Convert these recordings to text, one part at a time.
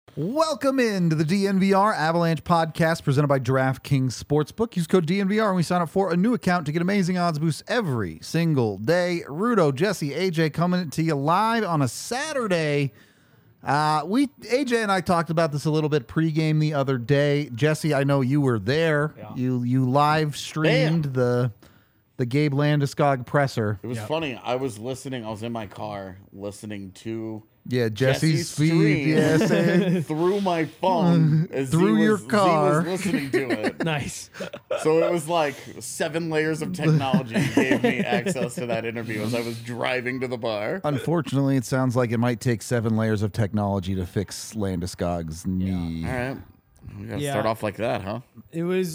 Welcome into the DNVR Avalanche podcast presented by DraftKings Sportsbook. Use code DNVR when we sign up for a new account to get amazing odds boosts every single day. Rudo, Jesse, AJ coming to you live on a Saturday. AJ and I talked about this a little bit pregame the other day. Jesse, I know you were there. Yeah. You live streamed the Gabe Landeskog presser. It was funny. I was listening. I was in my car listening to Jesse's feed. stream Yes, through my phone as Through he your was, car. Z was listening to it. Nice. So it was like 7 layers of technology gave me access to that interview as I was driving to the bar. Unfortunately, it sounds like it might take 7 layers of technology to fix Landeskog's knee. All right. We got to Yeah. start off like that, huh? It was,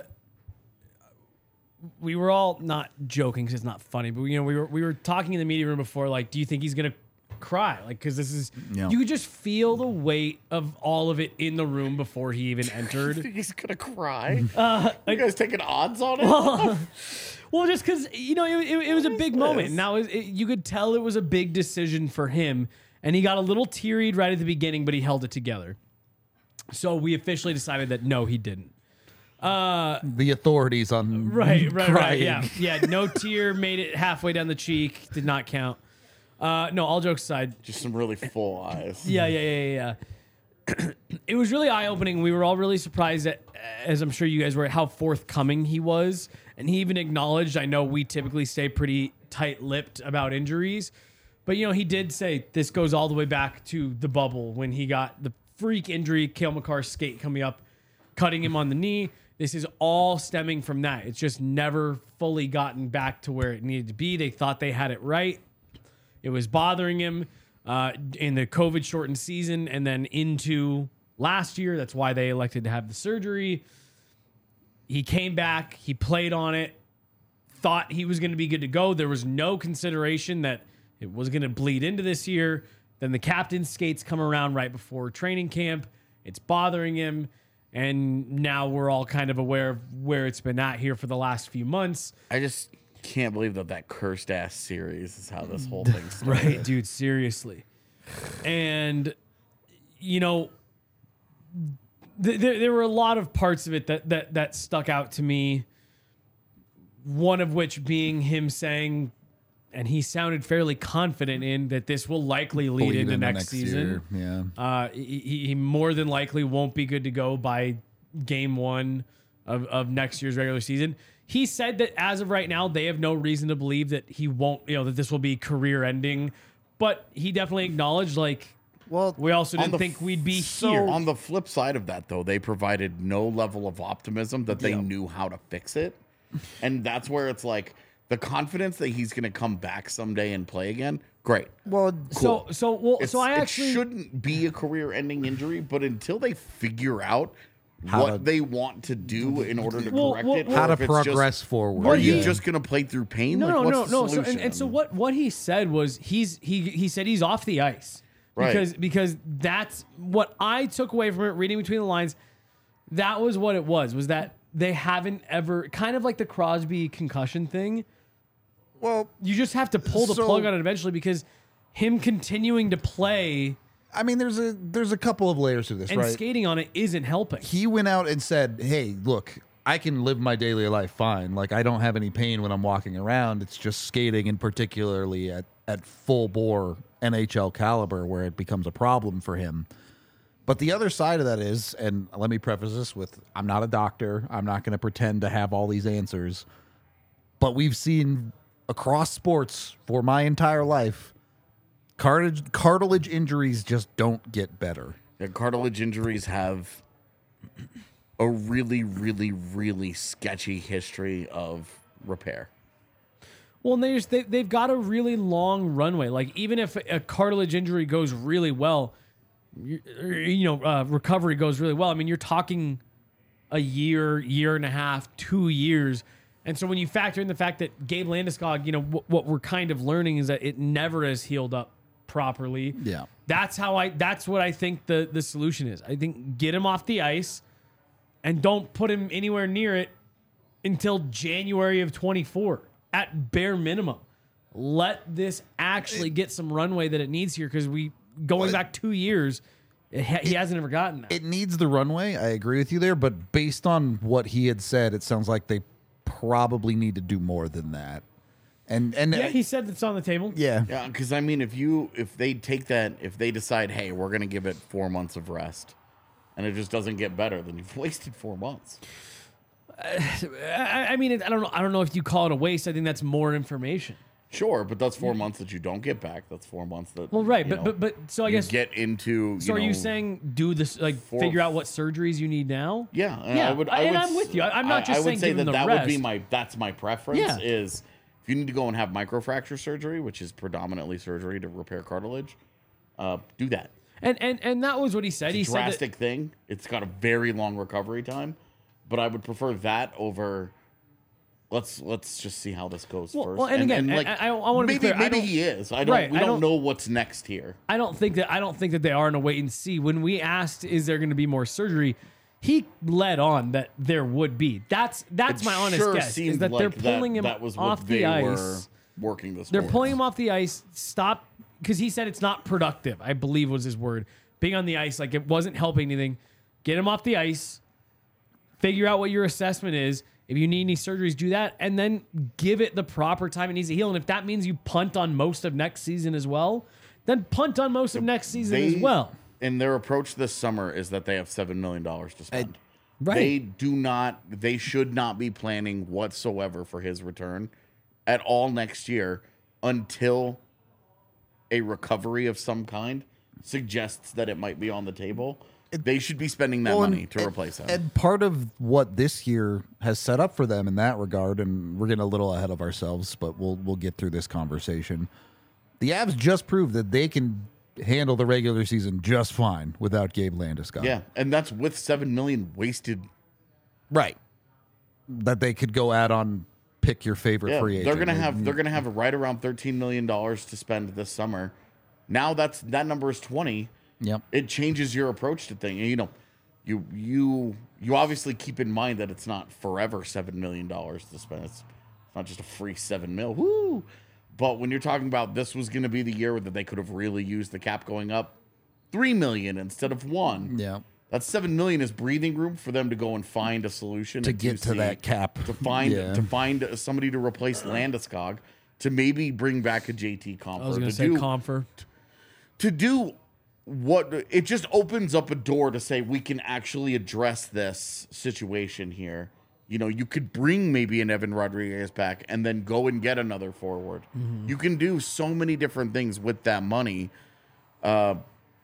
we were all not joking because it's not funny, but we were talking in the media room before, like, do you think he's going to cry? Like, because this is, Yeah. you could just feel the weight of all of it in the room before he even entered. He's going to cry? You guys taking odds on it? Well, just because, it was a big moment. Now, you could tell it was a big decision for him, and he got a little teary right at the beginning, but he held it together. So we officially decided that no, he didn't. The authorities on Right, crying. yeah. No tear made it halfway down the cheek. Did not count. No, all jokes aside. Just some really full eyes. Yeah. It was really eye-opening. We were all really surprised at, as I'm sure you guys were, at how forthcoming he was. And he even acknowledged, I know we typically stay pretty tight-lipped about injuries, but he did say this goes all the way back to the bubble when he got the freak injury, Cale Makar's skate coming up, cutting him on the knee. This is all stemming from that. It's just never fully gotten back to where it needed to be. They thought they had it right. It was bothering him in the COVID shortened season and then into last year. That's why they elected to have the surgery. He came back. He played on it. Thought he was going to be good to go. There was no consideration that it was going to bleed into this year. Then the captain's skates come around right before training camp. It's bothering him. And now we're all kind of aware of where it's been at here for the last few months. I just can't believe that cursed ass series is how this whole thing started. Right, dude, seriously. And, there were a lot of parts of it that stuck out to me. One of which being him saying, and he sounded fairly confident in, that this will likely lead into next season. Year. Yeah. He more than likely won't be good to go by game 1 of next year's regular season. He said that as of right now, they have no reason to believe that he won't, that this will be career ending. But he definitely acknowledged, Well, we also didn't think we'd be here. On the flip side of that, though, they provided no level of optimism that they knew how to fix it. And that's where it's like the confidence that he's going to come back someday and play again. Great. well, So I actually it shouldn't be a career-ending injury, but until they figure out How what to- they want to do in order to Well, correct well, it, or how to if it's just- progress forward. Are you Yeah. just going to play through pain? No. What's the So, solution? and so what he said was he said he's off the ice. Right. Because that's what I took away from it, reading between the lines. That was what it was that they haven't ever, kind of like the Crosby concussion thing. Well, You just have to pull the So- plug on it eventually, because him continuing to play I mean, there's a couple of layers to this, and right? skating on it isn't helping. He went out and said, "Hey, look, I can live my daily life fine. Like, I don't have any pain when I'm walking around. It's just skating, and particularly at full bore NHL caliber, where it becomes a problem for him." But the other side of that is, and let me preface this with, I'm not a doctor. I'm not going to pretend to have all these answers. But we've seen across sports for my entire life, cartilage injuries just don't get better. Yeah, cartilage injuries have a really, really, really sketchy history of repair. Well, and they've got a really long runway. Like, even if a cartilage injury goes really well, recovery goes really well. I mean, you're talking a year and a half, 2 years. And so when you factor in the fact that Gabe Landeskog, what we're kind of learning is that it never has healed up properly. Yeah. That's what I think the solution is. I think get him off the ice and don't put him anywhere near it until January of 24 at bare minimum. Let this actually get some runway that it needs here, because going back 2 years, He hasn't ever gotten that. It needs the runway. I agree with you there, but based on what he had said, it sounds like they probably need to do more than that. And yeah, he said it's on the table. yeah. Yeah, because I mean, if they take that, if they decide, hey, we're gonna give it 4 months of rest, and it just doesn't get better, then you've wasted 4 months. I mean, I don't know if you call it a waste. I think that's more information. Sure, but that's 4 months that you don't get back. That's 4 months that. Well, right, you know, but so I you guess. get into. So are you saying do this, like figure out what surgeries you need now? Yeah, Yeah, I would. I'm with you. I'm not just I would saying say give that him the that rest. would be my. That's my preference. Yeah. Is if you need to go and have microfracture surgery, which is predominantly surgery to repair cartilage, do that. And that was what he said. He said that, Drastic thing. It's got a very long recovery time, but I would prefer that over. Let's just see how this goes first. Well, and again, I want to be clear. Maybe he is. We don't know what's next here. I don't think that they are in a wait and see. When we asked, is there going to be more surgery? He led on that there would be. That's my honest guess. Is that they're pulling him off the ice. Working this. They're pulling him off the ice. Stop, because he said it's not productive. I believe was his word. Being on the ice, like it wasn't helping anything. Get him off the ice. Figure out what your assessment is. If you need any surgeries, do that, and then give it the proper time it needs to heal. And if that means you punt on most of next season as well, then punt on most of next season as well. And their approach this summer is that they have $7 million to spend. Right. They should not be planning whatsoever for his return at all next year until a recovery of some kind suggests that it might be on the table. They should be spending that money to replace him. And part of what this year has set up for them in that regard, and we're getting a little ahead of ourselves, but we'll get through this conversation. The Avs just proved that they can handle the regular season just fine without Gabe Landeskog. Yeah, and that's with $7 million wasted. Right. That they could go out on pick your favorite free agent. They're gonna have right around $13 million to spend this summer. Now that number is 20. Yep. It changes your approach to things. You know, you obviously keep in mind that it's not forever $7 million to spend. It's not just a free $7 million. Woo! But when you're talking about this was going to be the year that they could have really used the cap going up $3 million instead of $1 million. Yeah. That $7 million is breathing room for them to go and find a solution To get to that cap. to find somebody to replace Landeskog, to maybe bring back a JT Compher. I was going to say Compher. To do what it just opens up a door to say we can actually address this situation here. You know, you could bring maybe an Evan Rodriguez back and then go and get another forward. Mm-hmm. You can do so many different things with that money. And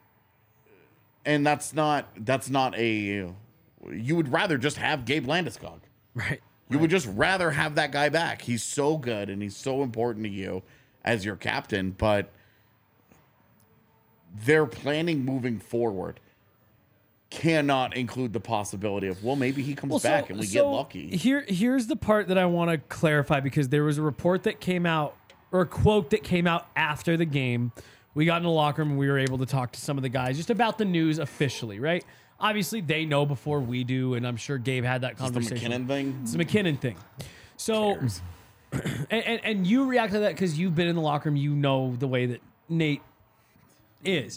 that's not a, you would rather just have Gabe Landeskog. Right. You would just rather have that guy back. He's so good and he's so important to you as your captain, but their planning moving forward cannot include the possibility of, well, maybe he comes back and we get lucky. Here's the part that I want to clarify, because there was a report that came out, or a quote that came out after the game. We got in the locker room and we were able to talk to some of the guys just about the news officially, right? Obviously, they know before we do, and I'm sure Gabe had that conversation. The McKinnon thing? It's the McKinnon thing. So, and you react to that because you've been in the locker room. You know the way that Nate is.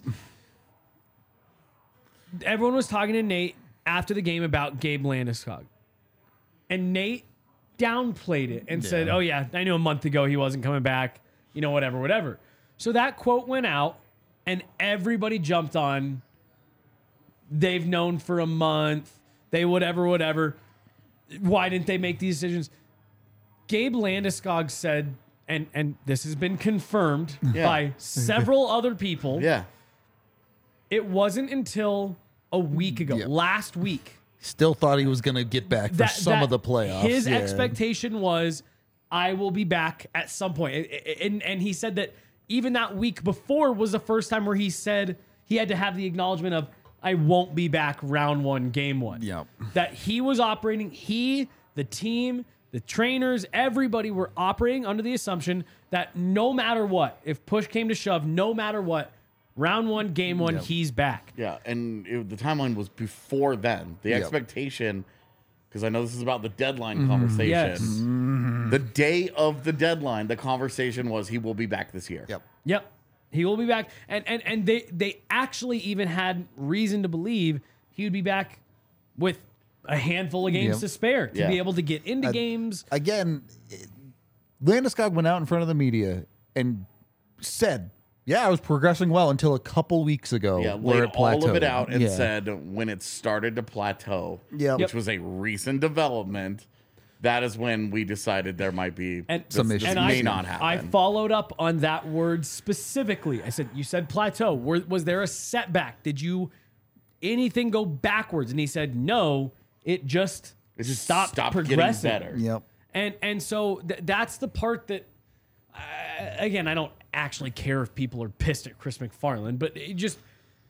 Everyone was talking to Nate after the game about Gabe Landeskog. And Nate downplayed it and said, oh, yeah, I knew a month ago he wasn't coming back. You know, whatever. So that quote went out, and everybody jumped on. They've known for a month. They whatever. Why didn't they make these decisions? Gabe Landeskog said, and this has been confirmed by several other people. Yeah. It wasn't until a week ago, last week. Still thought he was going to get back for some of the playoffs. His expectation was, I will be back at some point. And he said that even that week before was the first time where he said he had to have the acknowledgement of, I won't be back round 1, game 1. Yeah. That he was operating, the team, the trainers, everybody were operating under the assumption that no matter what, if push came to shove, no matter what, round 1, game 1, he's back. Yeah, and the timeline was before then. The expectation, because I know this is about the deadline conversation. Yes. The day of the deadline, the conversation was he will be back this year. Yep. He will be back, and they actually even had reason to believe he would be back with a handful of games Yep. to spare to Yeah. be able to get into games. Again, Landeskog went out in front of the media and said, "Yeah, I was progressing well until a couple weeks ago." Yeah, where laid it all of it plateaued." out and Yeah. said when it started to plateau, Yep. which was a recent development, that is when we decided there might be And Some this issues. may I, not happen. I followed up on that word specifically. I said, "You said plateau. Was there a setback? Did you anything go backwards?" And he said, "No, it just stopped getting progressing." better. Yep. And so that's the part that, again, I don't actually care if people are pissed at Chris McFarland, but it just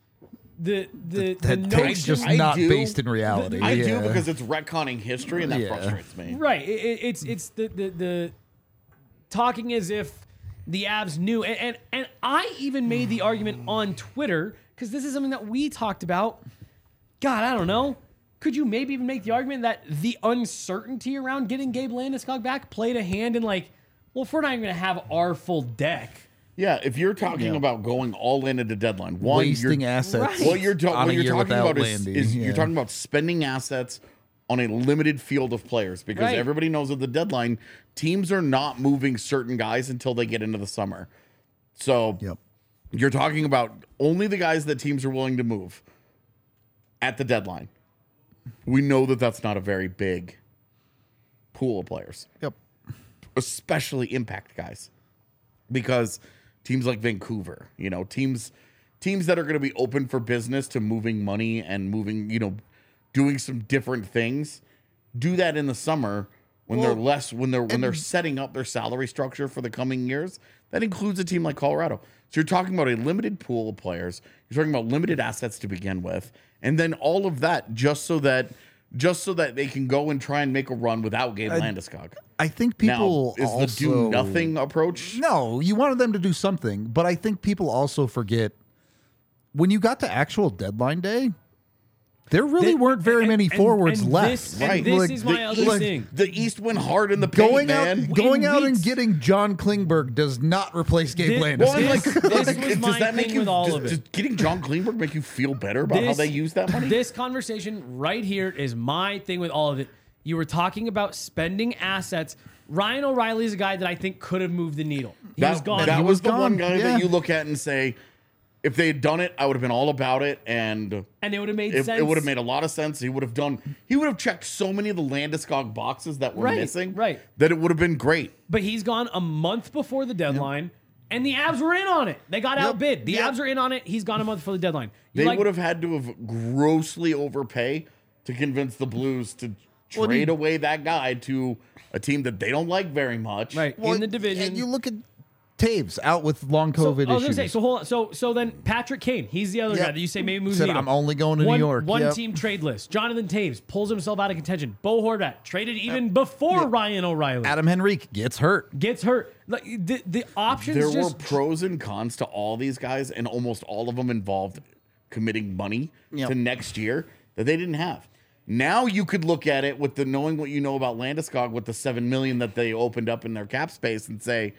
the That take's notion, just I not do. based in reality. I do Yeah. because it's retconning history and that Yeah. frustrates me. right? It's the talking as if the Avs knew, and I even made the argument on Twitter because this is something that we talked about. God, I don't know. Could you maybe even make the argument that the uncertainty around getting Gabe Landeskog back played a hand in like, well, if we're not even going to have our full deck, Yeah, if you're talking about going all in at the deadline, one, wasting you're, assets. Right. what you're, on what a you're year talking without about is, Landy. Yeah. you're talking about spending assets on a limited field of players because Right. everybody knows at the deadline, teams are not moving certain guys until they get into the summer. So Yep. you're talking about only the guys that teams are willing to move at the deadline. We know that that's not a very big pool of players, Yep. especially impact guys, because teams like Vancouver, teams that are going to be open for business to moving money and moving, doing some different things, do that in the summer when they're less when they're setting up their salary structure for the coming years. That includes a team like Colorado. So you're talking about a limited pool of players. You're talking about limited assets to begin with, and then all of that just so that they can go and try and make a run without Gabe Landeskog. I think Now, people is also the do nothing approach? No, you wanted them to do something, but I think people also forget when you got to actual deadline day, there really weren't very many forwards and left. This, and Right. this Like, is my other East, thing. the East went hard in the paint, Going man. out and weeks- getting John Klingberg does not replace Gabe Thi- Landeskog. Well, and This was does my that make thing you? with all does, of it. does getting John Klingberg make you feel better about how This- they use that money? This conversation right here is my thing with all of it. You were talking about spending assets. Ryan O'Reilly is a guy that I think could have moved the needle. He was gone. That He was was the one gone, guy yeah. that you look at and say, if they had done it, I would have been all about it, and and it would have made it, sense. would have made a lot of sense. He would have checked so many of the Landeskog boxes that were Right, missing, right. that it would have been great. But he's gone a month before the deadline, and the Avs were in on it. They got outbid. The Yep. Avs are in on it. He's gone a month before the deadline. They would have had to have grossly overpay to convince the Blues to trade away that guy to a team that they don't like very much. right in the division. And you look at Taves out with long So, COVID I was issues. gonna say, so hold on. So then Patrick Kane, he's the other Yep. guy that you say maybe moves Said, the needle. "I'm only going to New one, York." One Yep. team trade list. Jonathan Taves pulls himself out of contention. Bo Horvat traded even before Ryan O'Reilly Adam Henrique gets hurt. gets hurt. Like the options There just were pros and cons to all these guys, and almost all of them involved committing money Yep. to next year that they didn't have. Now you could look at it with the knowing what you know about Landeskog with the $7 million that they opened up in their cap space and say,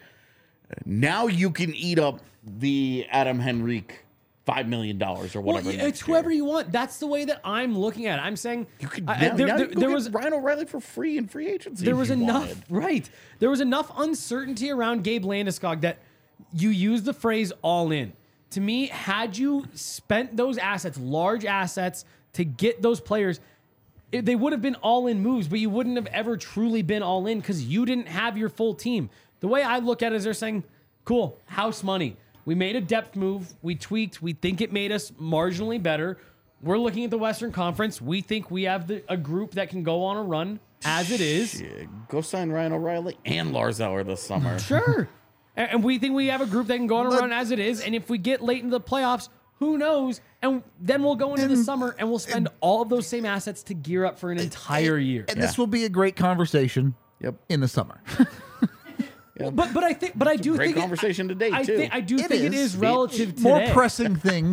now you can eat up the Adam Henrique $5 million or whatever. well, next it's whoever year. you want. That's the way that I'm looking at it. I'm saying You could I- now, there, now there- you can there go was get Ryan O'Reilly for free in free agency. there if was you enough wanted. right. There was enough uncertainty around Gabe Landeskog that you use the phrase all in. To me, had you spent those assets, large assets, to get those players, they would have been all in moves, but you wouldn't have ever truly been all in because you didn't have your full team. The way I look at it is they're saying, cool, house money. We made a depth move. We tweaked. We think it made us marginally better. We're looking at the Western Conference. We think we have a group that can go on a run as it is. Yeah, go sign Ryan O'Reilly and Lars Eller this summer. Sure. And we think we have a group that can go on a run as it is. And if we get late into the playoffs, who knows? And then we'll go into the summer and we'll spend all of those same assets to gear up for an entire year. And this will be a great conversation Yep. in the summer. But I do Great think conversation today, I too. think I do think it is relative to more today. pressing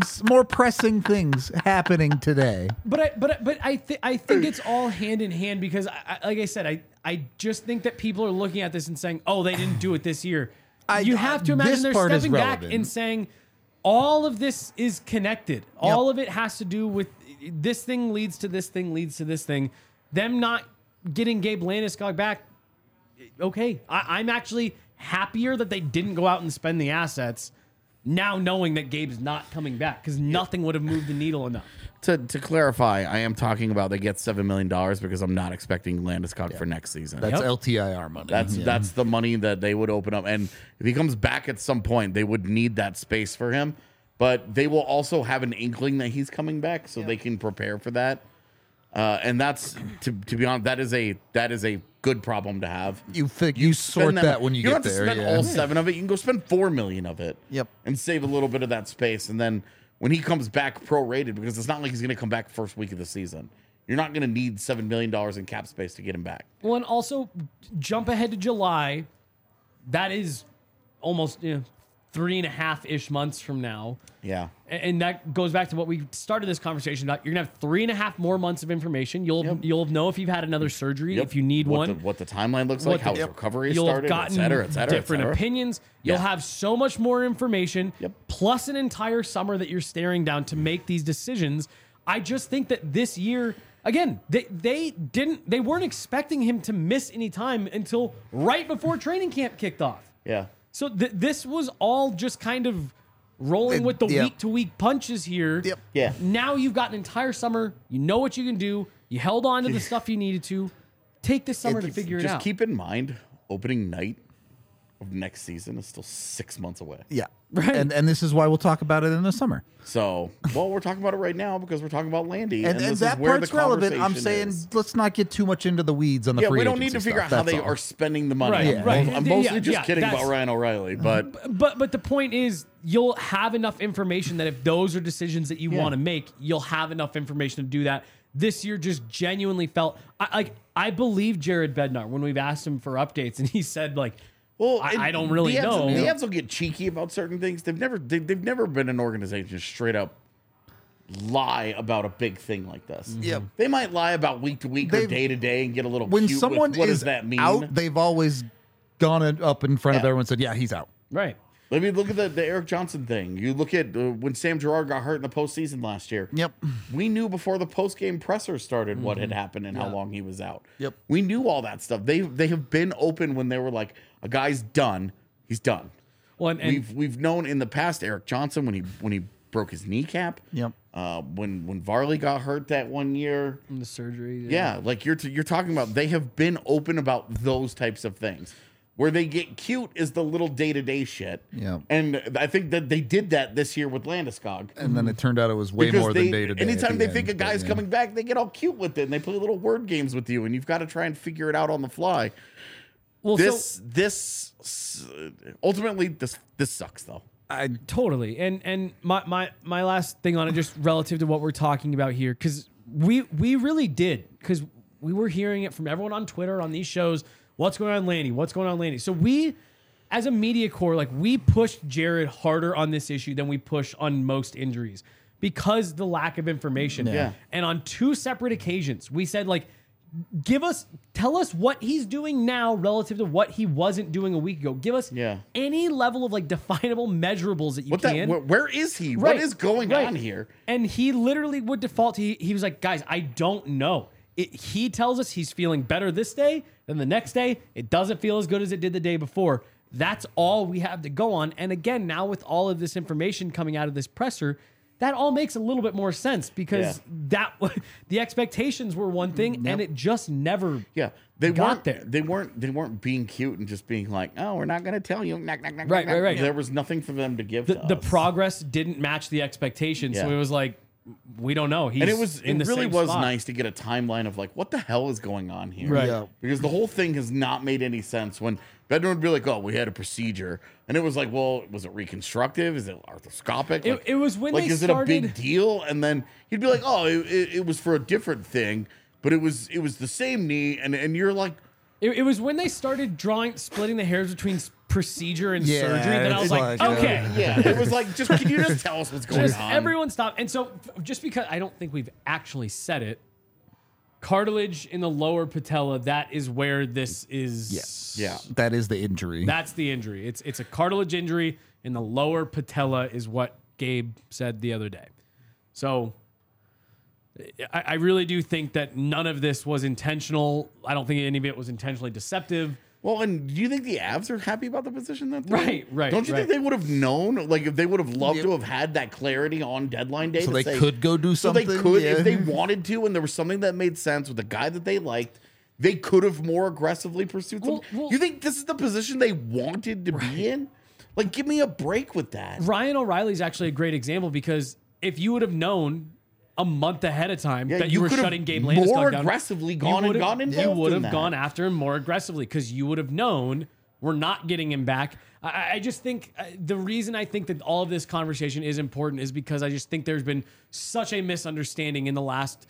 things happening today. But I think it's all hand in hand because like I said, I just think that people are looking at this and saying, oh, they didn't do it this year. you have to imagine this they're part is stepping back relevant. and saying all of this is connected. All of it has to do with this thing leads to this thing leads to this thing. Them not getting Gabe Landeskog back. Okay, I'm actually happier that they didn't go out and spend the assets now knowing that Gabe's not coming back because nothing would have moved the needle enough. To clarify, I am talking about they get $7 million because I'm not expecting Landeskog for next season. That's Yep. LTIR money. That's the money that they would open up. And if he comes back at some point, they would need that space for him. But they will also have an inkling that he's coming back, so they can prepare for that. And that's to be honest, that is a good problem to have. you sort Spend that when you don't get have to there. spend Yeah. all 7 of it. You can go spend $4 million of it. Yep. And save a little bit of that space, and then when he comes back prorated, because it's not like he's going to come back first week of the season. You're not going to need $7 million in cap space to get him back. Well, and also jump ahead to July. That is almost 3.5-ish months from now. Yeah. And that goes back to what we started this conversation about. You're gonna have 3.5 more months of information. You'll know if you've had another surgery, if you need one, what the timeline looks like, how his recovery you'll started, have gotten et cetera, different et cetera. opinions. You'll have so much more information, Yep. plus an entire summer that you're staring down to make these decisions. I just think that this year, again, they weren't expecting him to miss any time until right before training camp kicked off. Yeah. So this was all just kind of rolling with the Yep. week-to-week punches here. Yep. Yeah. Now you've got an entire summer. You know what you can do. You held on to the stuff you needed to. Take this summer to figure it Just out. keep in mind, opening night of next season is still 6 months away. Yeah. Right. And this is why we'll talk about it in the summer. So, well, we're talking about it right now because we're talking about Landy, And this that is where part's the relevant. I'm conversation saying is. let's not get too much into the weeds on the Yeah, free we don't need to agency figure out stuff, how they that's all. are spending the money. Right, right. I'm mostly Yeah, just yeah, kidding about that's- Ryan O'Reilly, but But the point is, you'll have enough information that if those are decisions that you want to make, you'll have enough information to do that. This year just genuinely felt I believe Jared Bednar when we've asked him for updates, and he said well, I don't really the Avs, know. The Avs will get cheeky about certain things. They've never been an organization to straight up lie about a big thing like this. Yep. They might lie about week to week or They've- day to day and get a little When cute someone with what is does that mean. out, they've always gone up in front of Yeah. everyone and said, yeah, he's out. right. I mean, look at the Eric Johnson thing. You look at when Sam Girard got hurt in the postseason last year. Yep. We knew before the post-game presser started what had happened and how long he was out. Yep. We knew all that stuff. They have been open when they were like, a guy's done, he's done. Well, and We've known in the past Eric Johnson when he broke his kneecap. Yep. When Varley got hurt that one year. the surgery. Yeah, like you're talking about, they have been open about those types of things. Where they get cute is the little day-to-day shit. Yeah. And I think that they did that this year with Landeskog. And then it turned out it was way more than day to day. Anytime they think a guy's coming back, they get all cute with it and they play little word games with you, and you've got to try and figure it out on the fly. Well, This ultimately this sucks though. Totally. And my last thing on it, just relative to what we're talking about here, because we really did, because we were hearing it from everyone on Twitter, on these shows. What's going on, Landy? What's going on, Landy? So we, as a media core, we pushed Jared harder on this issue than we push on most injuries because the lack of information. Yeah. And on 2 separate occasions, we said, tell us what he's doing now relative to what he wasn't doing a week ago. Give us any level of definable measurables that you can. Where is he? Right. What is going on here? And he literally would default. He was like, guys, I don't know. He tells us he's feeling better this day, then the next day, it doesn't feel as good as it did the day before. That's all we have to go on. And again, now with all of this information coming out of this presser, that all makes a little bit more sense because the expectations were one thing and it just never they got weren't there. They weren't being cute and just being like, oh, we're not going to tell you. Right. There was nothing for them to give The to us. progress didn't match the expectations. So Yeah. it was like, we don't know. He's And it really was spot. nice to get a timeline of what the hell is going on here? Right. Yeah. Because the whole thing has not made any sense when Bednar would be like, oh, we had a procedure. And it was like, well, was it reconstructive? Is it arthroscopic? It was when they is started. it a big deal? And then he'd be like, oh, it was for a different thing, but it was the same knee. And you're like, It was when they started splitting the hairs between procedure and Yeah, surgery that I was it's like, like, okay. yeah, it was like, can you just tell us what's going Just on? everyone stop. And so just because I don't think we've actually said it, cartilage in the lower patella. That is where this is. Yes. Yeah. That is the injury. That's the injury. It's a cartilage injury in the lower patella is what Gabe said the other day. So I really do think that none of this was intentional. I don't think any of it was intentionally deceptive. Well, and do you think the Avs are happy about the position that they're in? Right. Don't you think they would have known? Like, if they would have loved to have had that clarity on deadline day, so to they say, could go do so something. they could, yeah. if they wanted to, and there was something that made sense with the guy that they liked, they could have more aggressively pursued something. Well, you think this is the position they wanted to be in? Like, give me a break with that. Ryan O'Reilly's actually a great example because if you would have known a month ahead of time that you were could have shutting Gabe more Landeskog down, aggressively gone you and gone involved You would in have that. gone after him more aggressively because you would have known we're not getting him back. I just think the reason I think that all of this conversation is important is because I just think there's been such a misunderstanding in the last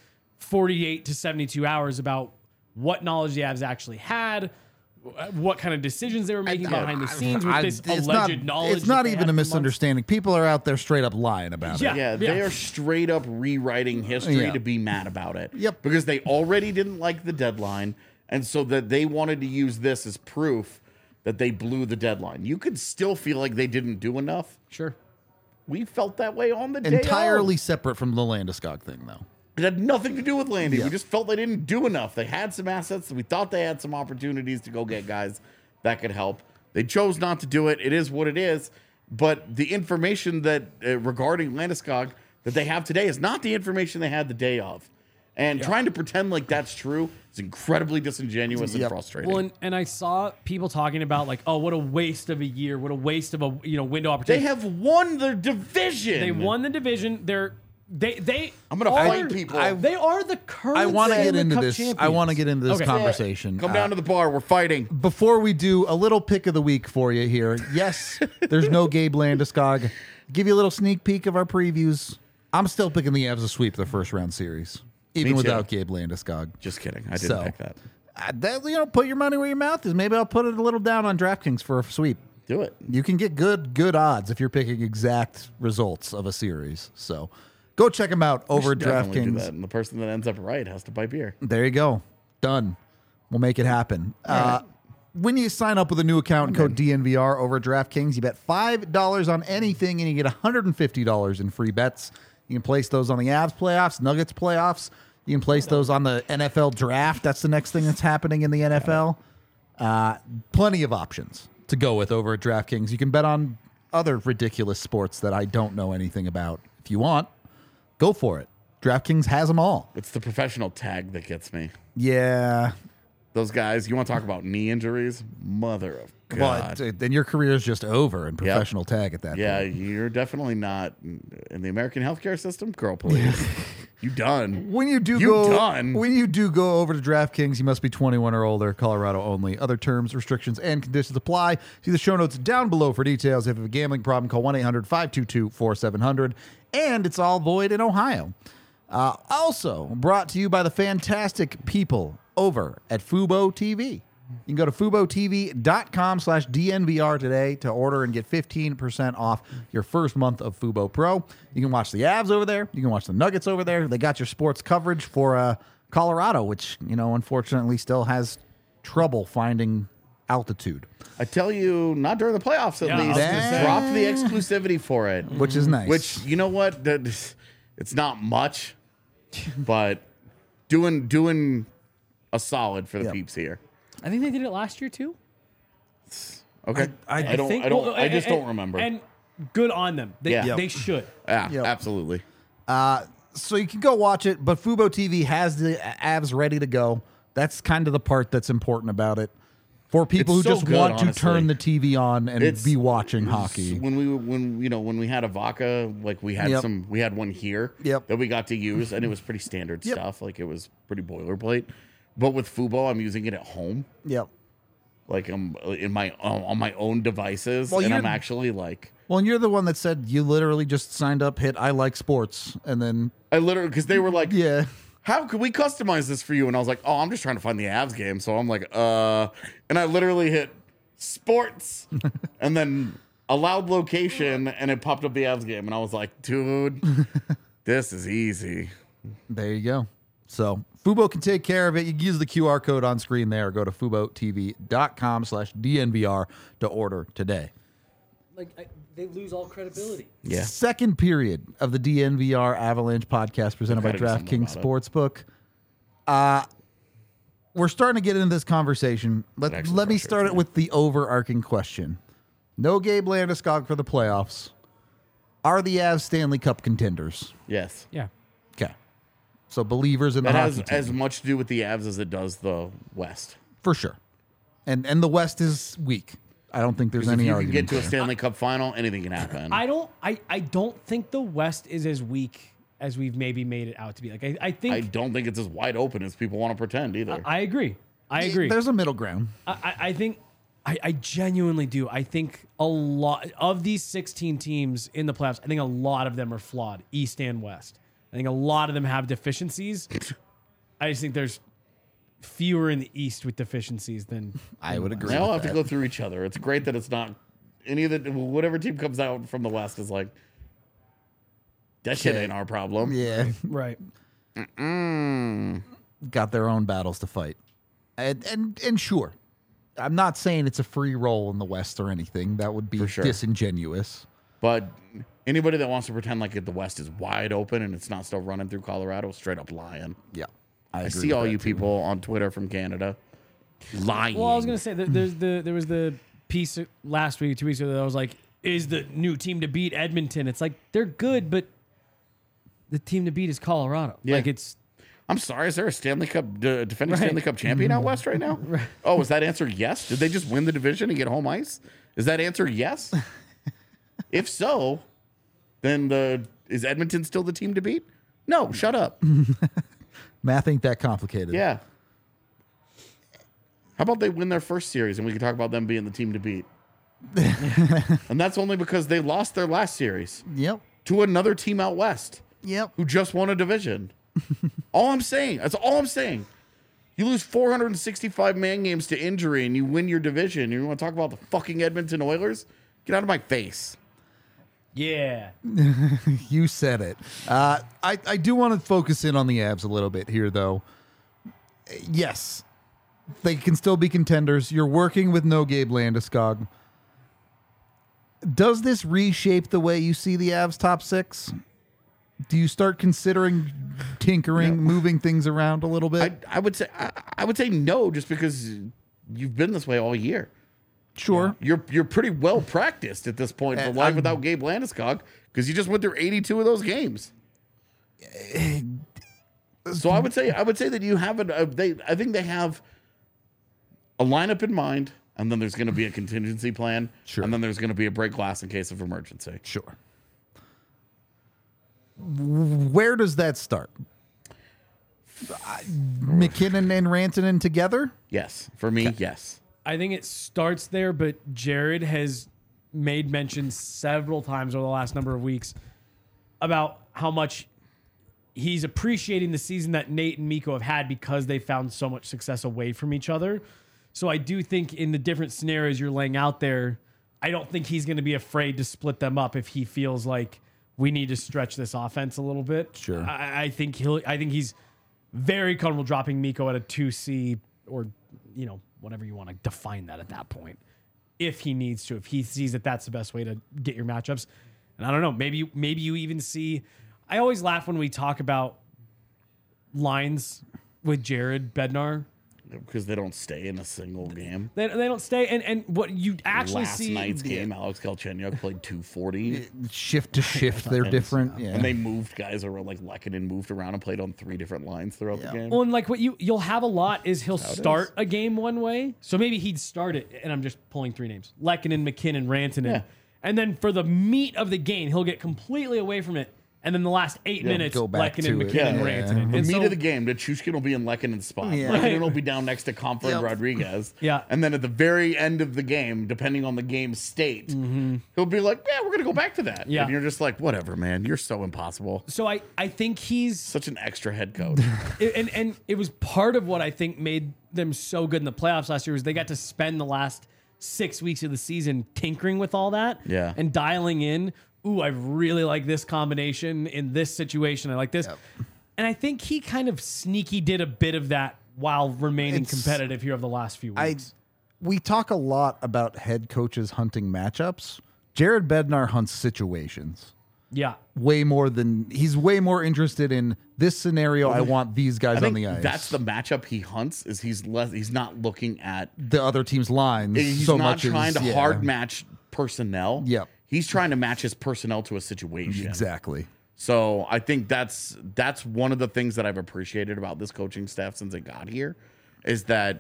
48 to 72 hours about what knowledge the Avs actually had, what kind of decisions they were making behind the scenes with this alleged knowledge. It's not that they even had a for months. misunderstanding. People are out there straight up lying about it. Yeah, they are straight up rewriting history Yeah. to be mad about it. Yep. Because they already didn't like the deadline, and so that they wanted to use this as proof that they blew the deadline. You could still feel like they didn't do enough. Sure. We felt that way on the day Entirely of. separate from the Landeskog thing, though. It had nothing to do with Landy. Yeah. We just felt they didn't do enough. They had some assets. We thought they had some opportunities to go get guys that could help. They chose not to do it. It is what it is. But the information that regarding Landeskog that they have today is not the information they had the day of. And trying to pretend like that's true is incredibly disingenuous and frustrating. Well, and I saw people talking about like, oh, what a waste of a year, what a waste of a window opportunity. They have won the division. They won the division. They. I'm gonna fight people. They are the current. I want to get Stanley into Cup this. I champions. want to get into this Okay. conversation. Come down to the bar. We're fighting. Before we do a little pick of the week for you here, yes, there's no Gabe Landeskog. Give you a little sneak peek of our previews. I'm still picking the Avs to sweep the first round series, even too. without Gabe Landeskog. Just kidding. I didn't pick that. Put your money where your mouth is. Maybe I'll put it a little down on DraftKings for a sweep. Do it. You can get good odds if you're picking exact results of a series. So go check them out over at Definitely do DraftKings. that. And the person that ends up right has to buy beer. There you go. Done. We'll make it happen. When you sign up with a new account and code DNVR over at DraftKings, you bet $5 on anything and you get $150 in free bets. You can place those on the Avs playoffs, Nuggets playoffs. You can place those on the NFL draft. That's the next thing that's happening in the NFL. Plenty of options to go with over at DraftKings. You can bet on other ridiculous sports that I don't know anything about. If you want, go for it. DraftKings has them all. It's the professional tag that gets me. Yeah. Those guys, you want to talk about knee injuries? Mother of God. Well, then your career is just over in professional tag at that Yeah, point. you're definitely not in the American healthcare system. Girl, please. You done. When you do go over to DraftKings, you must be 21 or older, Colorado only. Other terms, restrictions, and conditions apply. See the show notes down below for details. If you have a gambling problem, call 1-800-522-4700. And it's all void in Ohio. Also brought to you by the fantastic people over at Fubo TV. You can go to FuboTV.com/DNVR today to order and get 15% off your first month of Fubo Pro. You can watch the Avs over there. You can watch the Nuggets over there. They got your sports coverage for Colorado, which, unfortunately still has trouble finding altitude. I tell you, not during the playoffs at Yeah, I least. was gonna say. Drop the exclusivity for it. Which is nice. Which, you know what? It's not much, but doing a solid for the peeps here. I think they did it last year too. Okay. I just don't remember. And good on them. They should. Yeah, Yep. absolutely. So you can go watch it, but Fubo TV has the Avs ready to go. That's kind of the part that's important about it. For people It's who so just good, want to honestly. turn the TV on and It's- be watching hockey. When we had a Vaca, like we had Yep. we had one here Yep. that we got to use, and it was pretty standard Yep. stuff. Like it was pretty boilerplate. But with Fubo, I'm using it at home. Yep. Like I'm on my own devices, Well, and you're- I'm actually like Well, and you're the one that said you literally just signed up, hit I like sports, and then I literally because they were like, yeah, how could we customize this for you? And I was like, oh, I'm just trying to find the Avs game. So I'm like, and I literally hit sports and then allowed location, and it popped up the Avs game, and I was like, dude, this is easy. there you go. So Fubo can take care of it. You can use the QR code on screen there. Or go to FuboTV.com/DNVR to order today. They lose all credibility. Yeah. Second period of the DNVR Avalanche podcast presented by Gotta do something DraftKings about Sportsbook. We're starting to get into this conversation. Let actually me start frustrates it me. with the overarching question. No Gabe Landeskog for the playoffs. Are the Avs Stanley Cup contenders? Yes. Yeah. Okay. So believers in the That hockey has team. as much to do with the Avs as it does the West. For sure. And the West is weak. I don't think there's Because if any you can argument get to a there. Stanley Cup final, anything can happen. I don't think the West is as weak as we've maybe made it out to be. Like I I think don't think it's as wide open as people want to pretend either. I agree. I agree. There's a middle ground. I think I genuinely do. I think a lot of these 16 teams in the playoffs, I think a lot of them are flawed, East and West. I think a lot of them have deficiencies. I just think there's fewer in the East with deficiencies than I would agree. They all with have to that. go through each other. It's great that it's not any of the whatever team comes out from the West is like that shit Okay. ain't our problem. Yeah. right. Got their own battles to fight. And sure, I'm not saying it's a free roll in the West or anything. That would be For sure. disingenuous. But anybody that wants to pretend like the West is wide open and it's not still running through Colorado, straight up lying. Yeah. I agree see with all that you too. people on Twitter from Canada lying. Well, I was gonna say that there was the piece last week, 2 weeks ago that I was like, is the new team to beat Edmonton? It's like they're good, but the team to beat is Colorado. Yeah. Like it's I'm sorry, is there a Stanley Cup defending Right. Stanley Cup champion out west right now? Oh, is that answer yes? Did they just win the division and get home ice? Is that answer yes? If so, then is Edmonton still the team to beat? No, shut up. Math ain't that complicated. Yeah. How about they win their first series and we can talk about them being the team to beat? And that's only because they lost their last series Yep. to another team out west Yep. who just won a division. All I'm saying. That's all I'm saying. You lose 465 man games to injury and you win your division. You want to talk about the fucking Edmonton Oilers? Get out of my face. yeah. You said it. I do want to focus in on the Avs a little bit here, though. Yes, they can still be contenders. You're working with no Gabe Landeskog. Does this reshape the way you see the Avs top six? Do you start considering tinkering, moving things around a little bit? I would say no, just because you've been this way all year. Sure. You're pretty well practiced at this point for life without Gabe Landeskog because you just went through 82 of those games. So I would say that you have I think they have a lineup in mind, and then there's going to be a contingency plan, Sure. and then there's going to be a break glass in case of emergency. Sure. Where does that start? McKinnon and Rantanen together? Yes, for me, yes. I think it starts there, but Jared has made mention several times over the last number of weeks about how much he's appreciating the season that Nate and Mikko have had because they found so much success away from each other. So I do think in the different scenarios you're laying out there, I don't think he's going to be afraid to split them up if he feels like we need to stretch this offense a little bit. Sure. I think he's very comfortable dropping Mikko at a 2C or, whatever you want to define that at that point. If he needs to, if he sees that that's the best way to get your matchups. And I don't know, maybe you even see, I always laugh when we talk about lines with Jared Bednar. Because they don't stay in a single game. They don't stay. And what you actually Last see. night's game, Alex Galchenyuk played 240. Shift to shift, they're different. Yeah. And they moved guys around, like Lehkonen moved around and played on 3 different lines throughout the game. Well, and like what you'll have a lot is he'll start a game one way. So maybe he'd start it, and I'm just pulling 3 names: Lehkonen, McKinnon, Rantanen. Yeah. And then for the meat of the game, he'll get completely away from it. And then the last 8 minutes, go back Lehkonen, to it. McKinnon, Yeah. Rantanen. The And meat so- of the game, Nichushkin will be in Lekkonen's spot. Yeah. Lehkonen Right. will be down next to Comfort and Yep. Rodriguez. Yeah. And then at the very end of the game, depending on the game state, he'll be like, yeah, we're going to go back to that. Yeah. And you're just like, whatever, man. You're so impossible. So I think he's Such an extra head coach. and it was part of what I think made them so good in the playoffs last year was they got to spend the last 6 weeks of the season tinkering with all that Yeah. and dialing in. Ooh, I really like this combination in this situation. I like this. And I think he kind of sneaky did a bit of that while remaining It's- competitive here over the last few weeks. We talk a lot about head coaches hunting matchups. Jared Bednar hunts situations Yeah. way more than he's way more interested in this scenario. I want these guys I on think the ice. that's the matchup he hunts. Is he's not looking at. the other team's lines. He's so not much trying as, to hard match personnel. Yep. He's trying to match his personnel to a situation. Exactly. So I think that's one of the things that I've appreciated about this coaching staff since it got here, is that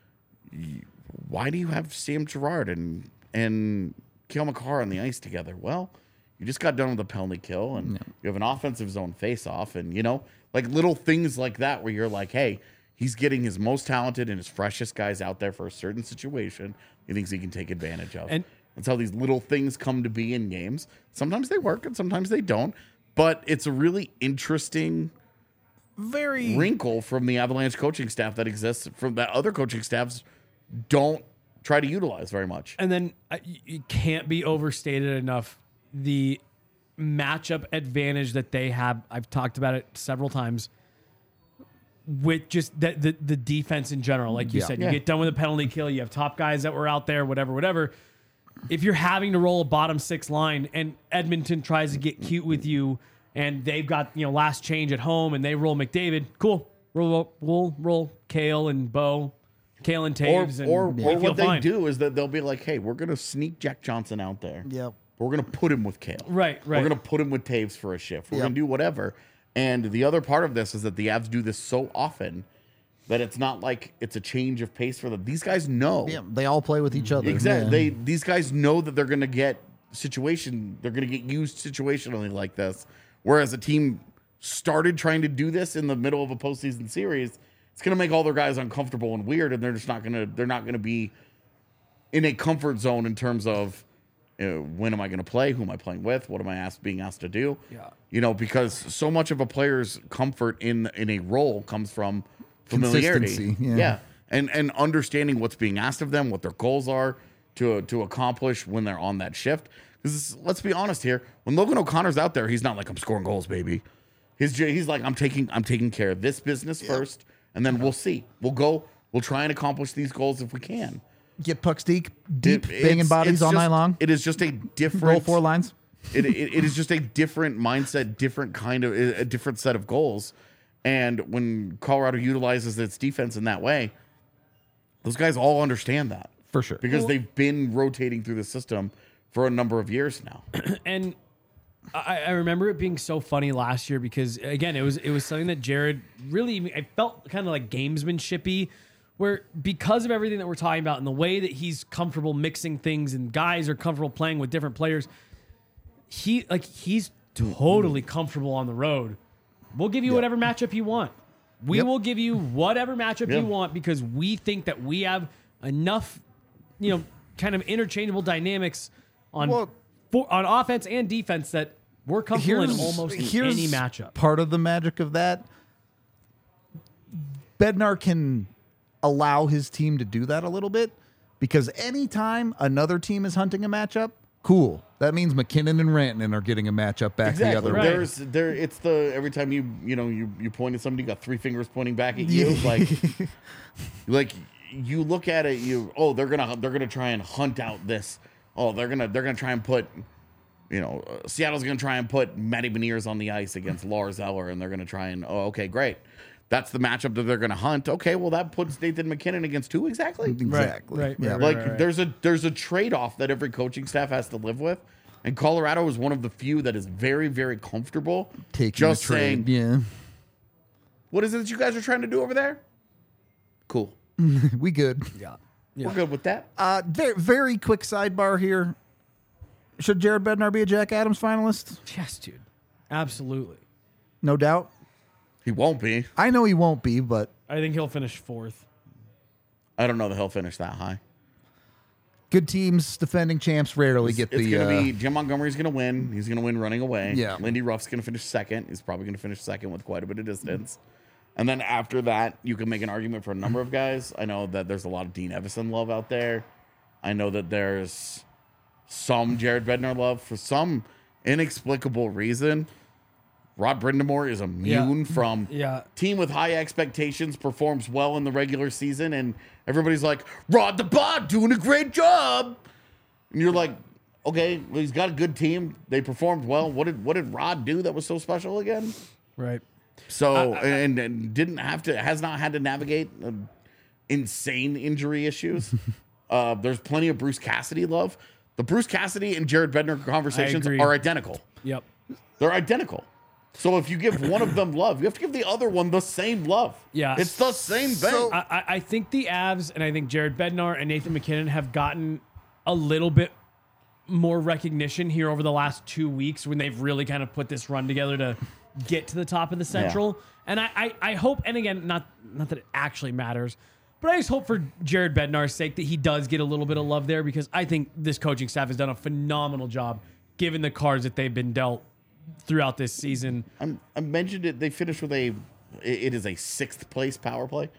why do you have Sam Girard and Cale Makar on the ice together? Well, you just got done with a penalty kill, and you have an offensive zone face-off, and like little things like that where you're like, hey, he's getting his most talented and his freshest guys out there for a certain situation he thinks he can take advantage of. And that's how these little things come to be in games. Sometimes they work and sometimes they don't. But it's a really interesting wrinkle from the Avalanche coaching staff that exists from that other coaching staffs don't try to utilize very much. And then it can't be overstated enough the matchup advantage that they have. I've talked about it several times with just the defense in general. Like you said, you get done with a penalty kill. You have top guys that were out there, whatever. If you're having to roll a bottom six line and Edmonton tries to get cute with you and they've got, last change at home and they roll McDavid, cool. We'll roll Cale and Bo. Cale and Taves. Or we what feel they fine. do is that they'll be like, hey, we're going to sneak Jack Johnson out there. Yep. We're going to put him with Cale. Right. We're going to put him with Taves for a shift. We're going to do whatever. And the other part of this is that the Avs do this so often that it's not like it's a change of pace for them. These guys know. Yeah, they all play with each other. Exactly. Yeah. These guys know that they're going to get they're going to get used situationally like this. Whereas a team started trying to do this in the middle of a postseason series, it's going to make all their guys uncomfortable and weird, and they're not going to be in a comfort zone in terms of when am I going to play? Who am I playing with? What am I being asked to do? Yeah. Because so much of a player's comfort in a role comes from familiarity. Consistency, yeah. And understanding what's being asked of them, what their goals are to accomplish when they're on that shift. Because let's be honest here, when Logan O'Connor's out there, he's not like, I'm scoring goals, baby. He's like, I'm taking care of this business first, and then we'll see. We'll try and accomplish these goals if we can. Get pucks deep, banging bodies all night long. It is just a different Roll 4 lines. it is just a different mindset, different kind of a different set of goals. And when Colorado utilizes its defense in that way, those guys all understand that For sure. because they've been rotating through the system for a number of years now. And I remember it being so funny last year because again, it was something that Jared really, I felt kind of like gamesmanshipy, where because of everything that we're talking about and the way that he's comfortable mixing things and guys are comfortable playing with different players, he's totally comfortable on the road. We'll give you whatever matchup you want. We will give you whatever matchup you want because we think that we have enough, kind of interchangeable dynamics on offense and defense that we're comfortable in almost any matchup. Part of the magic of that, Bednar can allow his team to do that a little bit because anytime another team is hunting a matchup, cool. That means McKinnon and Rantanen are getting a matchup back the other way. It's every time you point at somebody, you got three fingers pointing back at you. Like you look at it, they're gonna try and hunt out this. Oh, they're gonna try and put, Seattle's gonna try and put Matty Beniers on the ice against Lars Eller, and they're gonna try and okay, great. That's the matchup that they're going to hunt. Okay, well, that puts Nathan McKinnon against who exactly? Exactly. Right. Yeah. Right. There's a trade-off that every coaching staff has to live with, and Colorado is one of the few that is very, very comfortable Taking just a trade. saying, what is it that you guys are trying to do over there? Cool. We good. Yeah. We're good with that. Very, very quick sidebar here. Should Jared Bednar be a Jack Adams finalist? Yes, dude. Absolutely. No doubt. He won't be. I know he won't be, but I think he'll finish fourth. I don't know that he'll finish that high. good teams, defending champs, rarely get It's the. going to be Jim Montgomery's going to win. He's going to win running away. Yeah. Lindy Ruff's going to finish second. He's probably going to finish second with quite a bit of distance. And then after that, you can make an argument for a number of guys. I know that there's a lot of Dean Evison love out there. I know that there's some Jared Bednar love for some inexplicable reason. Rod Brindamore is immune from team with high expectations, performs well in the regular season, and everybody's like, Rod the Bod doing a great job. And you're like, okay, well, he's got a good team. They performed well. What did Rod do that was so special again? Right. So and has not had to navigate insane injury issues. There's plenty of Bruce Cassidy love. The Bruce Cassidy and Jared Bednar conversations are identical. Yep. They're identical. So if you give one of them love, you have to give the other one the same love. Yeah. It's the same thing. So I think the Avs and I think Jared Bednar and Nathan MacKinnon have gotten a little bit more recognition here over the last 2 weeks when they've really kind of put this run together to get to the top of the Central. And I hope, and again, not that it actually matters, but I just hope for Jared Bednar's sake that he does get a little bit of love there, because I think this coaching staff has done a phenomenal job given the cards that they've been dealt throughout this season. I mentioned it. They finished with it is a 6th place power play,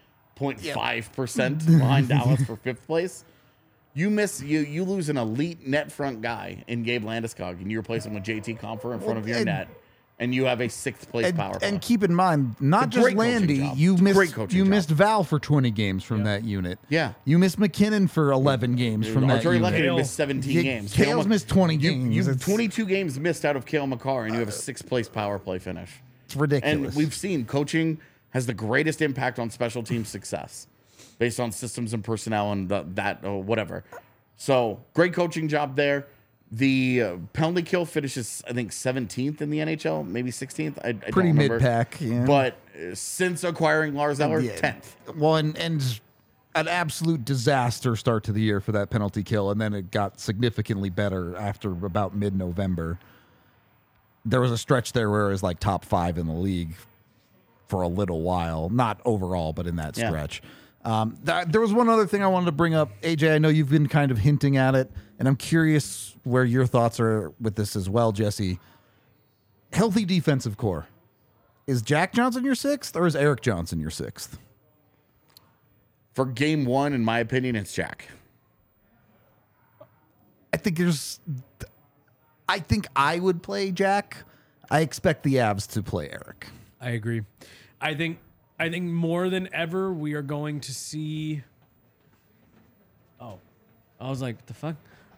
0.5% behind Dallas for 5th place. You lose an elite net front guy in Gabe Landeskog, and you replace him with JT Compher in front of your net, and you have a 6th place power play. And keep in mind, not just Landy, you missed Val for 20 games from that unit. Yeah. You missed McKinnon for 11 games from that Arturi unit. Lekkinen missed 17 games. Kale's missed 20 games. You have 22 games missed out of Cale Makar, and you have a 6th place power play finish. It's ridiculous. And we've seen coaching has the greatest impact on special team success based on systems and personnel and whatever. So great coaching job there. The penalty kill finishes, I think, 17th in the NHL, maybe 16th. I don't remember. Mid-pack, yeah. But since acquiring Lars Eller, 10th. Well, and an absolute disaster start to the year for that penalty kill, and then it got significantly better after about mid-November. There was a stretch there where it was like top 5 in the league for a little while. Not overall, but in that stretch. There was one other thing I wanted to bring up. AJ, I know you've been kind of hinting at it, and I'm curious where your thoughts are with this as well, Jesse. Healthy defensive core. Is Jack Johnson your 6th, or is Erik Johnson your 6th? For game 1, in my opinion, it's Jack. I think I would play Jack. I expect the Avs to play Erik. I agree. I think more than ever we are going to see. Oh, I was like, what the fuck?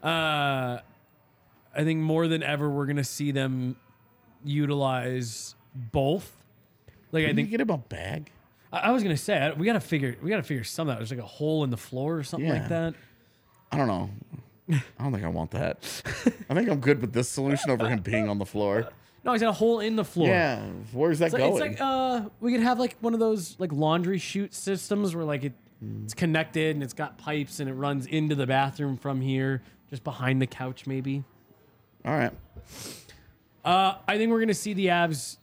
I think more than ever we're going to see them utilize both. Like, I think get him a bag. I was going to say we got to figure something out. There's like a hole in the floor or something like that. I don't know. I don't think I want that. I think I'm good with this solution over him being on the floor. No, he's got a hole in the floor. Yeah, where's that going? It's like we could have like one of those like laundry chute systems where like it's connected and it's got pipes and it runs into the bathroom from here, just behind the couch maybe. All right. I think we're gonna see the Avs.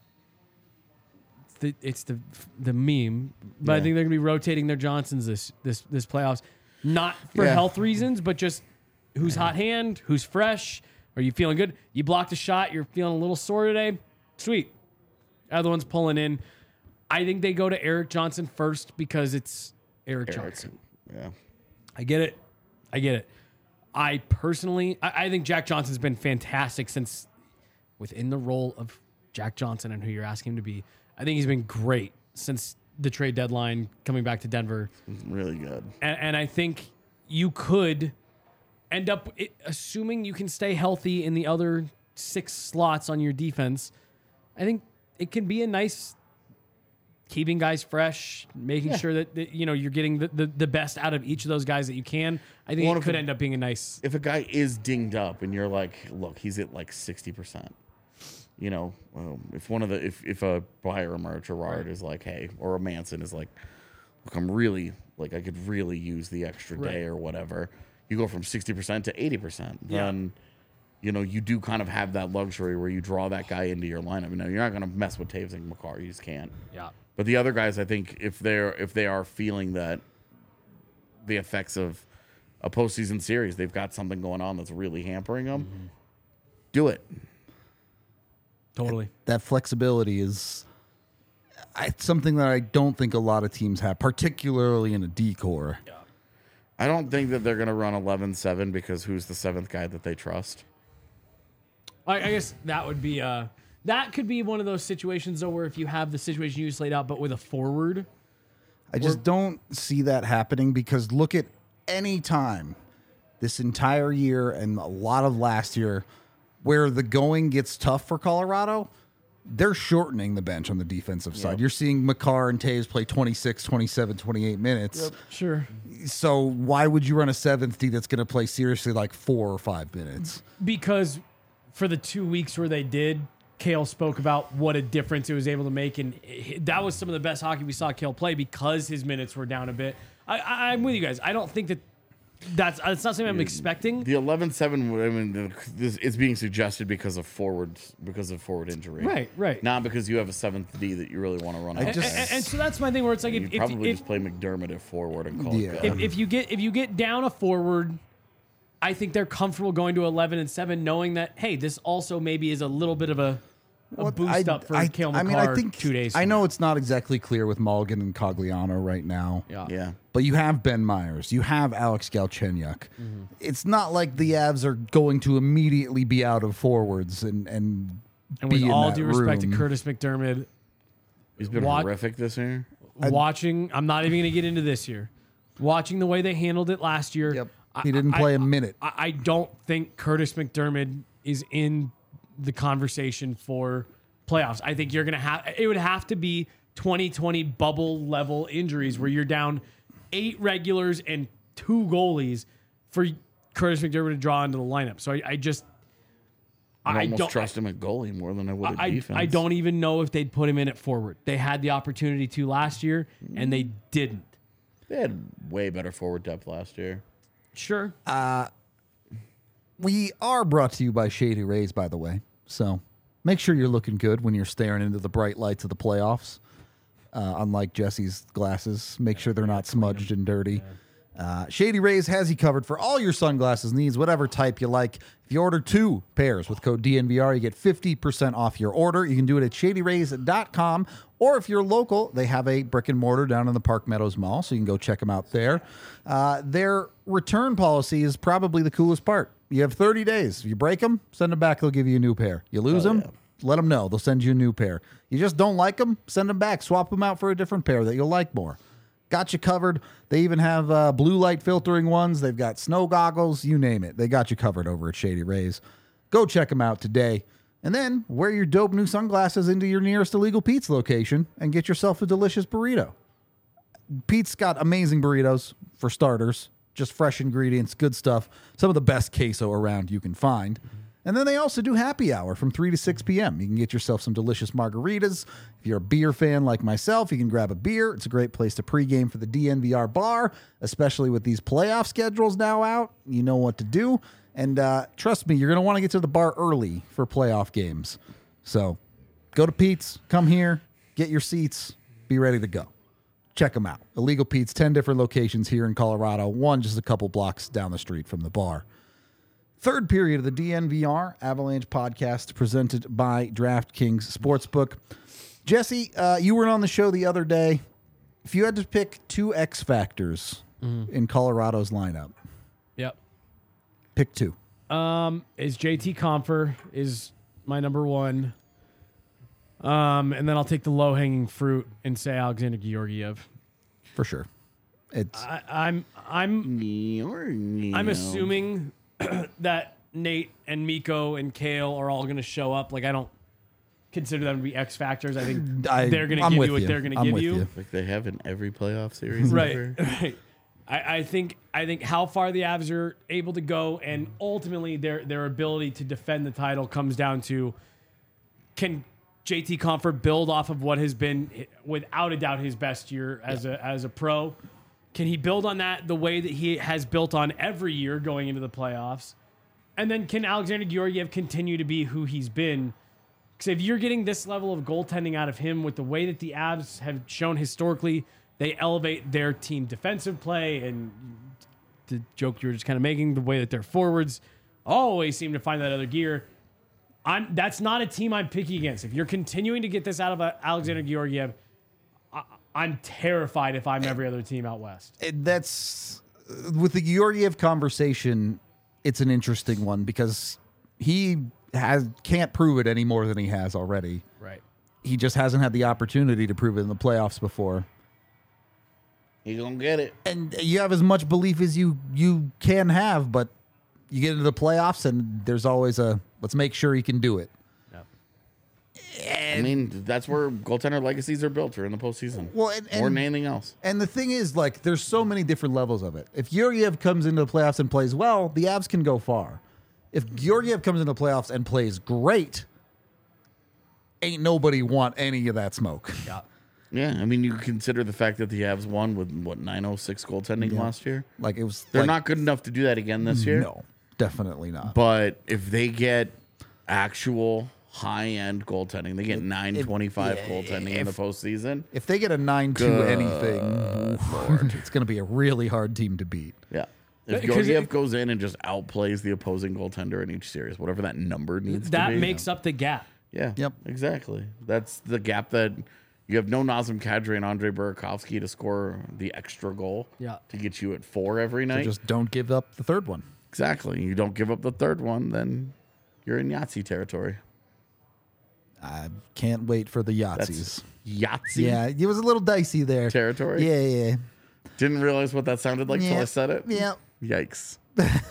It's the meme, but I think they're gonna be rotating their Johnsons this playoffs, not for health reasons, but just who's hot hand, who's fresh. Are you feeling good? You blocked a shot. You're feeling a little sore today. Sweet. Other one's pulling in. I think they go to Erik Johnson first because it's Erik Johnson. Yeah. I get it. I personally, I think Jack Johnson's been fantastic since within the role of Jack Johnson and who you're asking him to be. I think he's been great since the trade deadline coming back to Denver. Really good. And I think you could end up, assuming you can stay healthy in the other 6 slots on your defense, I think it can be a nice keeping guys fresh, making sure that you're getting the best out of each of those guys that you can. I think it could end up being a nice. If a guy is dinged up and you're like, look, he's at like 60%. If a Byram or a Gerard is like, hey, or a Manson is like, look, I'm really like I could really use the extra day or whatever. You go from 60% to 80%. Then, you do kind of have that luxury where you draw that guy into your lineup. You're not going to mess with Taves and Makar. You just can't. Yeah. But the other guys, I think, if they are feeling that the effects of a postseason series, they've got something going on that's really hampering them. Do it. Totally. That flexibility is something that I don't think a lot of teams have, particularly in a D-core. Yeah. I don't think that they're going to run 11-7 because who's the 7th guy that they trust? I guess that would be that could be one of those situations though, where if you have the situation you just laid out, but with a forward, I just don't see that happening because look at any time this entire year and a lot of last year where the going gets tough for Colorado, they're shortening the bench on the defensive side. You're seeing Makar and Taves play 26, 27, 28 minutes. sure, So why would you run a 7th D that's going to play seriously like 4 or 5 minutes? because for the 2 weeks where they did, Kale spoke about what a difference it was able to make, and that was some of the best hockey we saw Kale play because his minutes were down a bit. I'm with you guys. I don't think that's not something I'm expecting. The 11-7, I mean, it's being suggested because of forward injury. Right. Not because you have a 7th D that you really want to run. And so that's my thing where it's like you probably just play McDermott at forward and call it good. if you get down a forward, I think they're comfortable going to 11-7, knowing that hey, this also maybe is a little bit of a boost up for Kale McCarr. I think 2 days. I know it's not exactly clear with Mulligan and Cogliano right now. Yeah. But you have Ben Myers. You have Alex Galchenyuk. It's not like the Avs are going to immediately be out of forwards and with be in all that due respect to room. Curtis McDermott, He's been horrific this year. watching, I'm not even going to get into this year. Watching the way they handled it last year, Yep. He didn't play a minute. I don't think Curtis McDermott is in the conversation for playoffs. I think it would have to be 2020 bubble level injuries where you're down 8 regulars and 2 goalies for Curtis McDermott to draw into the lineup. So I almost trust him at goalie more than I would at defense. I don't even know if they'd put him in at forward. They had the opportunity to last year and they didn't. They had way better forward depth last year. Sure. We are brought to you by Shady Rays, by the way. So make sure you're looking good when you're staring into the bright lights of the playoffs. Unlike Jesse's glasses, make sure they're not smudged and dirty. Shady Rays has you covered for all your sunglasses needs, whatever type you like. If you order 2 pairs with code DNVR, you get 50% off your order. You can do it at shadyrays.com, or if you're local, they have a brick and mortar down in the Park Meadows Mall, so you can go check them out there. Their return policy is probably the coolest part. You have 30 days. If you break them, send them back. They'll give you a new pair. You lose them, let them know. They'll send you a new pair. You just don't like them, send them back. Swap them out for a different pair that you'll like more. Got you covered. They even have blue light filtering ones. They've got snow goggles, you name it. They got you covered over at Shady Rays. Go check them out today. And then wear your dope new sunglasses into your nearest Illegal Pete's location and get yourself a delicious burrito. Pete's got amazing burritos for starters. Just fresh ingredients, good stuff. Some of the best queso around you can find. And then they also do happy hour from 3 to 6 p.m. You can get yourself some delicious margaritas. If you're a beer fan like myself, you can grab a beer. It's a great place to pregame for the DNVR bar, especially with these playoff schedules now out. You know what to do. And trust me, you're going to want to get to the bar early for playoff games. So go to Pete's, come here, get your seats, be ready to go. Check them out. Illegal Pete's, 10 different locations here in Colorado, one just a couple blocks down the street from the bar. Third period of the DNVR Avalanche podcast presented by DraftKings Sportsbook. Jesse, you were on the show the other day. If you had to pick 2 X factors in Colorado's lineup, Yep. pick 2. Is JT Compher is my number 1. And then I'll take the low hanging fruit and say Alexander Georgiev. For sure. It's I'm assuming that Nate and Miko and Kale are all going to show up. Like, I don't consider them to be X factors. I think they're going to give you what they're going to give you. Like they have in every playoff series. Right. Ever. Right. I think how far the Avs are able to go and ultimately their ability to defend the title comes down to, can JT Compher build off of what has been without a doubt his best year as a pro? Can he build on that the way that he has built on every year going into the playoffs? And then can Alexander Georgiev continue to be who he's been? Because if you're getting this level of goaltending out of him with the way that the Avs have shown historically, they elevate their team defensive play, and the joke you were just kind of making, the way that their forwards always seem to find that other gear. That's not a team I'm picking against. If you're continuing to get this out of Alexander Georgiev, I'm terrified if I'm every other team out west. That's with the Georgiev conversation. It's an interesting one because he can't prove it any more than he has already. Right. He just hasn't had the opportunity to prove it in the playoffs before. He's gonna get it. And you have as much belief as you can have, but you get into the playoffs and there's always a let's make sure he can do it. I mean, that's where goaltender legacies are built, or in the postseason. Well, more than anything else. And the thing is, like, there's so many different levels of it. If Georgiev comes into the playoffs and plays well, the Avs can go far. If Georgiev comes into the playoffs and plays great, ain't nobody want any of that smoke. Yeah. Yeah, I mean, you consider the fact that the Avs won with, 906 goaltending last year? Like, it was. They're like, not good enough to do that again this year. No, definitely not. But if they get actual high-end goaltending, they get 925 goaltending in the postseason. If they get a 9-2 anything, it's going to be a really hard team to beat. Yeah. If Because Georgiev goes in and just outplays the opposing goaltender in each series, whatever that number needs to be. That makes up the gap. Yeah. Yep. Exactly. That's the gap that you have no Nazem Kadri and Andre Burakovsky to score the extra goal to get you at 4 every night. Just don't give up the third one. Exactly. You don't give up the third one, then you're in Yahtzee territory. I can't wait for the Yahtzees. That's Yahtzee Yeah, it was a little dicey there. territory. Yeah. Didn't realize what that sounded like till Yeah. I said it. Yeah. Yikes.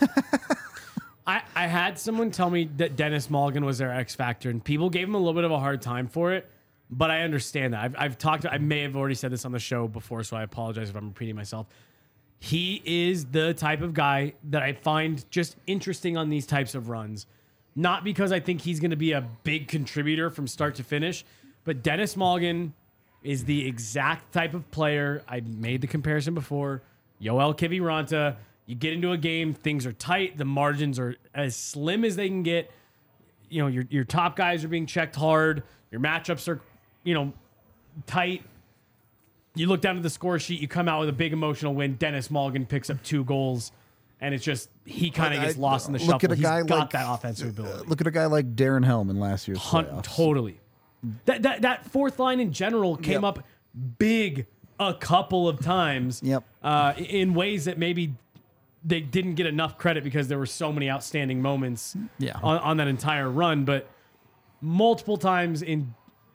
I had someone tell me that Dennis Mulligan was their X factor, and people gave him a little bit of a hard time for it. But I understand that. I've talked. I may have already said this on the show before, so I apologize if I'm repeating myself. He is the type of guy that I find just interesting on these types of runs. Not because I think he's going to be a big contributor from start to finish, but Dennis Mulligan is the exact type of player. I made the comparison before. Yoel Kiviranta. You get into a game, things are tight, the margins are as slim as they can get. You know, your top guys are being checked hard. Your matchups are, tight. You look down at the score sheet, you come out with a big emotional win. Dennis Mulligan picks up 2 goals, and it's just he kind of gets lost in the shuffle. Look at a guy He's got like that offensive ability. Look at a guy like Darren Helm in last year's playoffs. Totally. That fourth line in general came up big a couple of times. Yep. In ways that maybe they didn't get enough credit because there were so many outstanding moments on that entire run. But multiple times in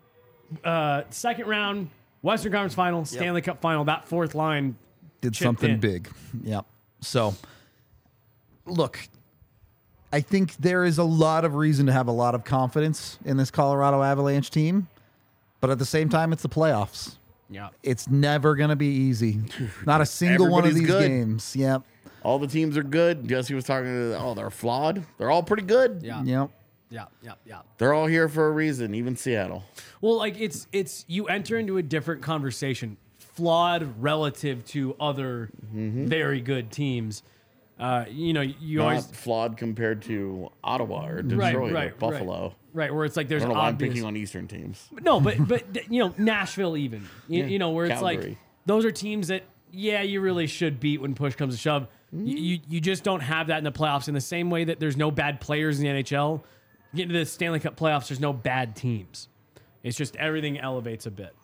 second round, Western Conference Final, Stanley Cup Final, that fourth line did chipped something in. big. Yep. So, look, I think there is a lot of reason to have a lot of confidence in this Colorado Avalanche team, but at the same time, it's the playoffs. Yeah. It's never going to be easy. Not a single one of Everybody's these good. games. Yep. All the teams are good. Jesse was talking to, they're flawed. They're all pretty good. Yeah. Yep. Yeah. They're all here for a reason, even Seattle. Well, like it's you enter into a different conversation, flawed relative to other very good teams. You Not always flawed compared to Ottawa or Detroit or Buffalo. right, where it's like I there's don't know why I'm obvious. picking on Eastern teams. No, but Nashville even where it's Calgary. like those are teams that you really should beat when push comes to shove. You just don't have that in the playoffs in the same way that there's no bad players in the NHL. You get into the Stanley Cup playoffs, there's no bad teams. It's just everything elevates a bit.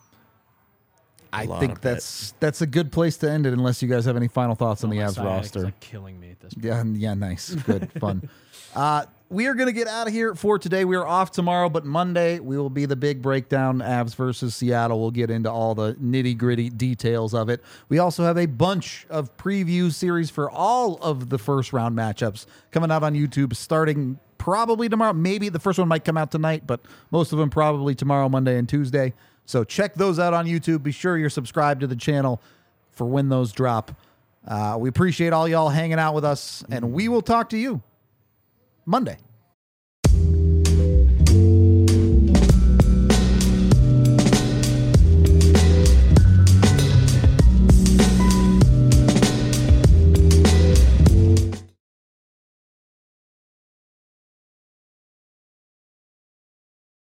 I think that's a good place to end it unless you guys have any final thoughts on the Avs roster. Like killing me at this point. Yeah, nice. Good, fun. We are going to get out of here for today. We are off tomorrow, but Monday we will be the big breakdown, Avs versus Seattle. We'll get into all the nitty-gritty details of it. We also have a bunch of preview series for all of the first-round matchups coming out on YouTube starting probably tomorrow. Maybe the first one might come out tonight, but most of them probably tomorrow, Monday, and Tuesday. So check those out on YouTube. Be sure you're subscribed to the channel for when those drop. We appreciate all y'all hanging out with us, and we will talk to you Monday.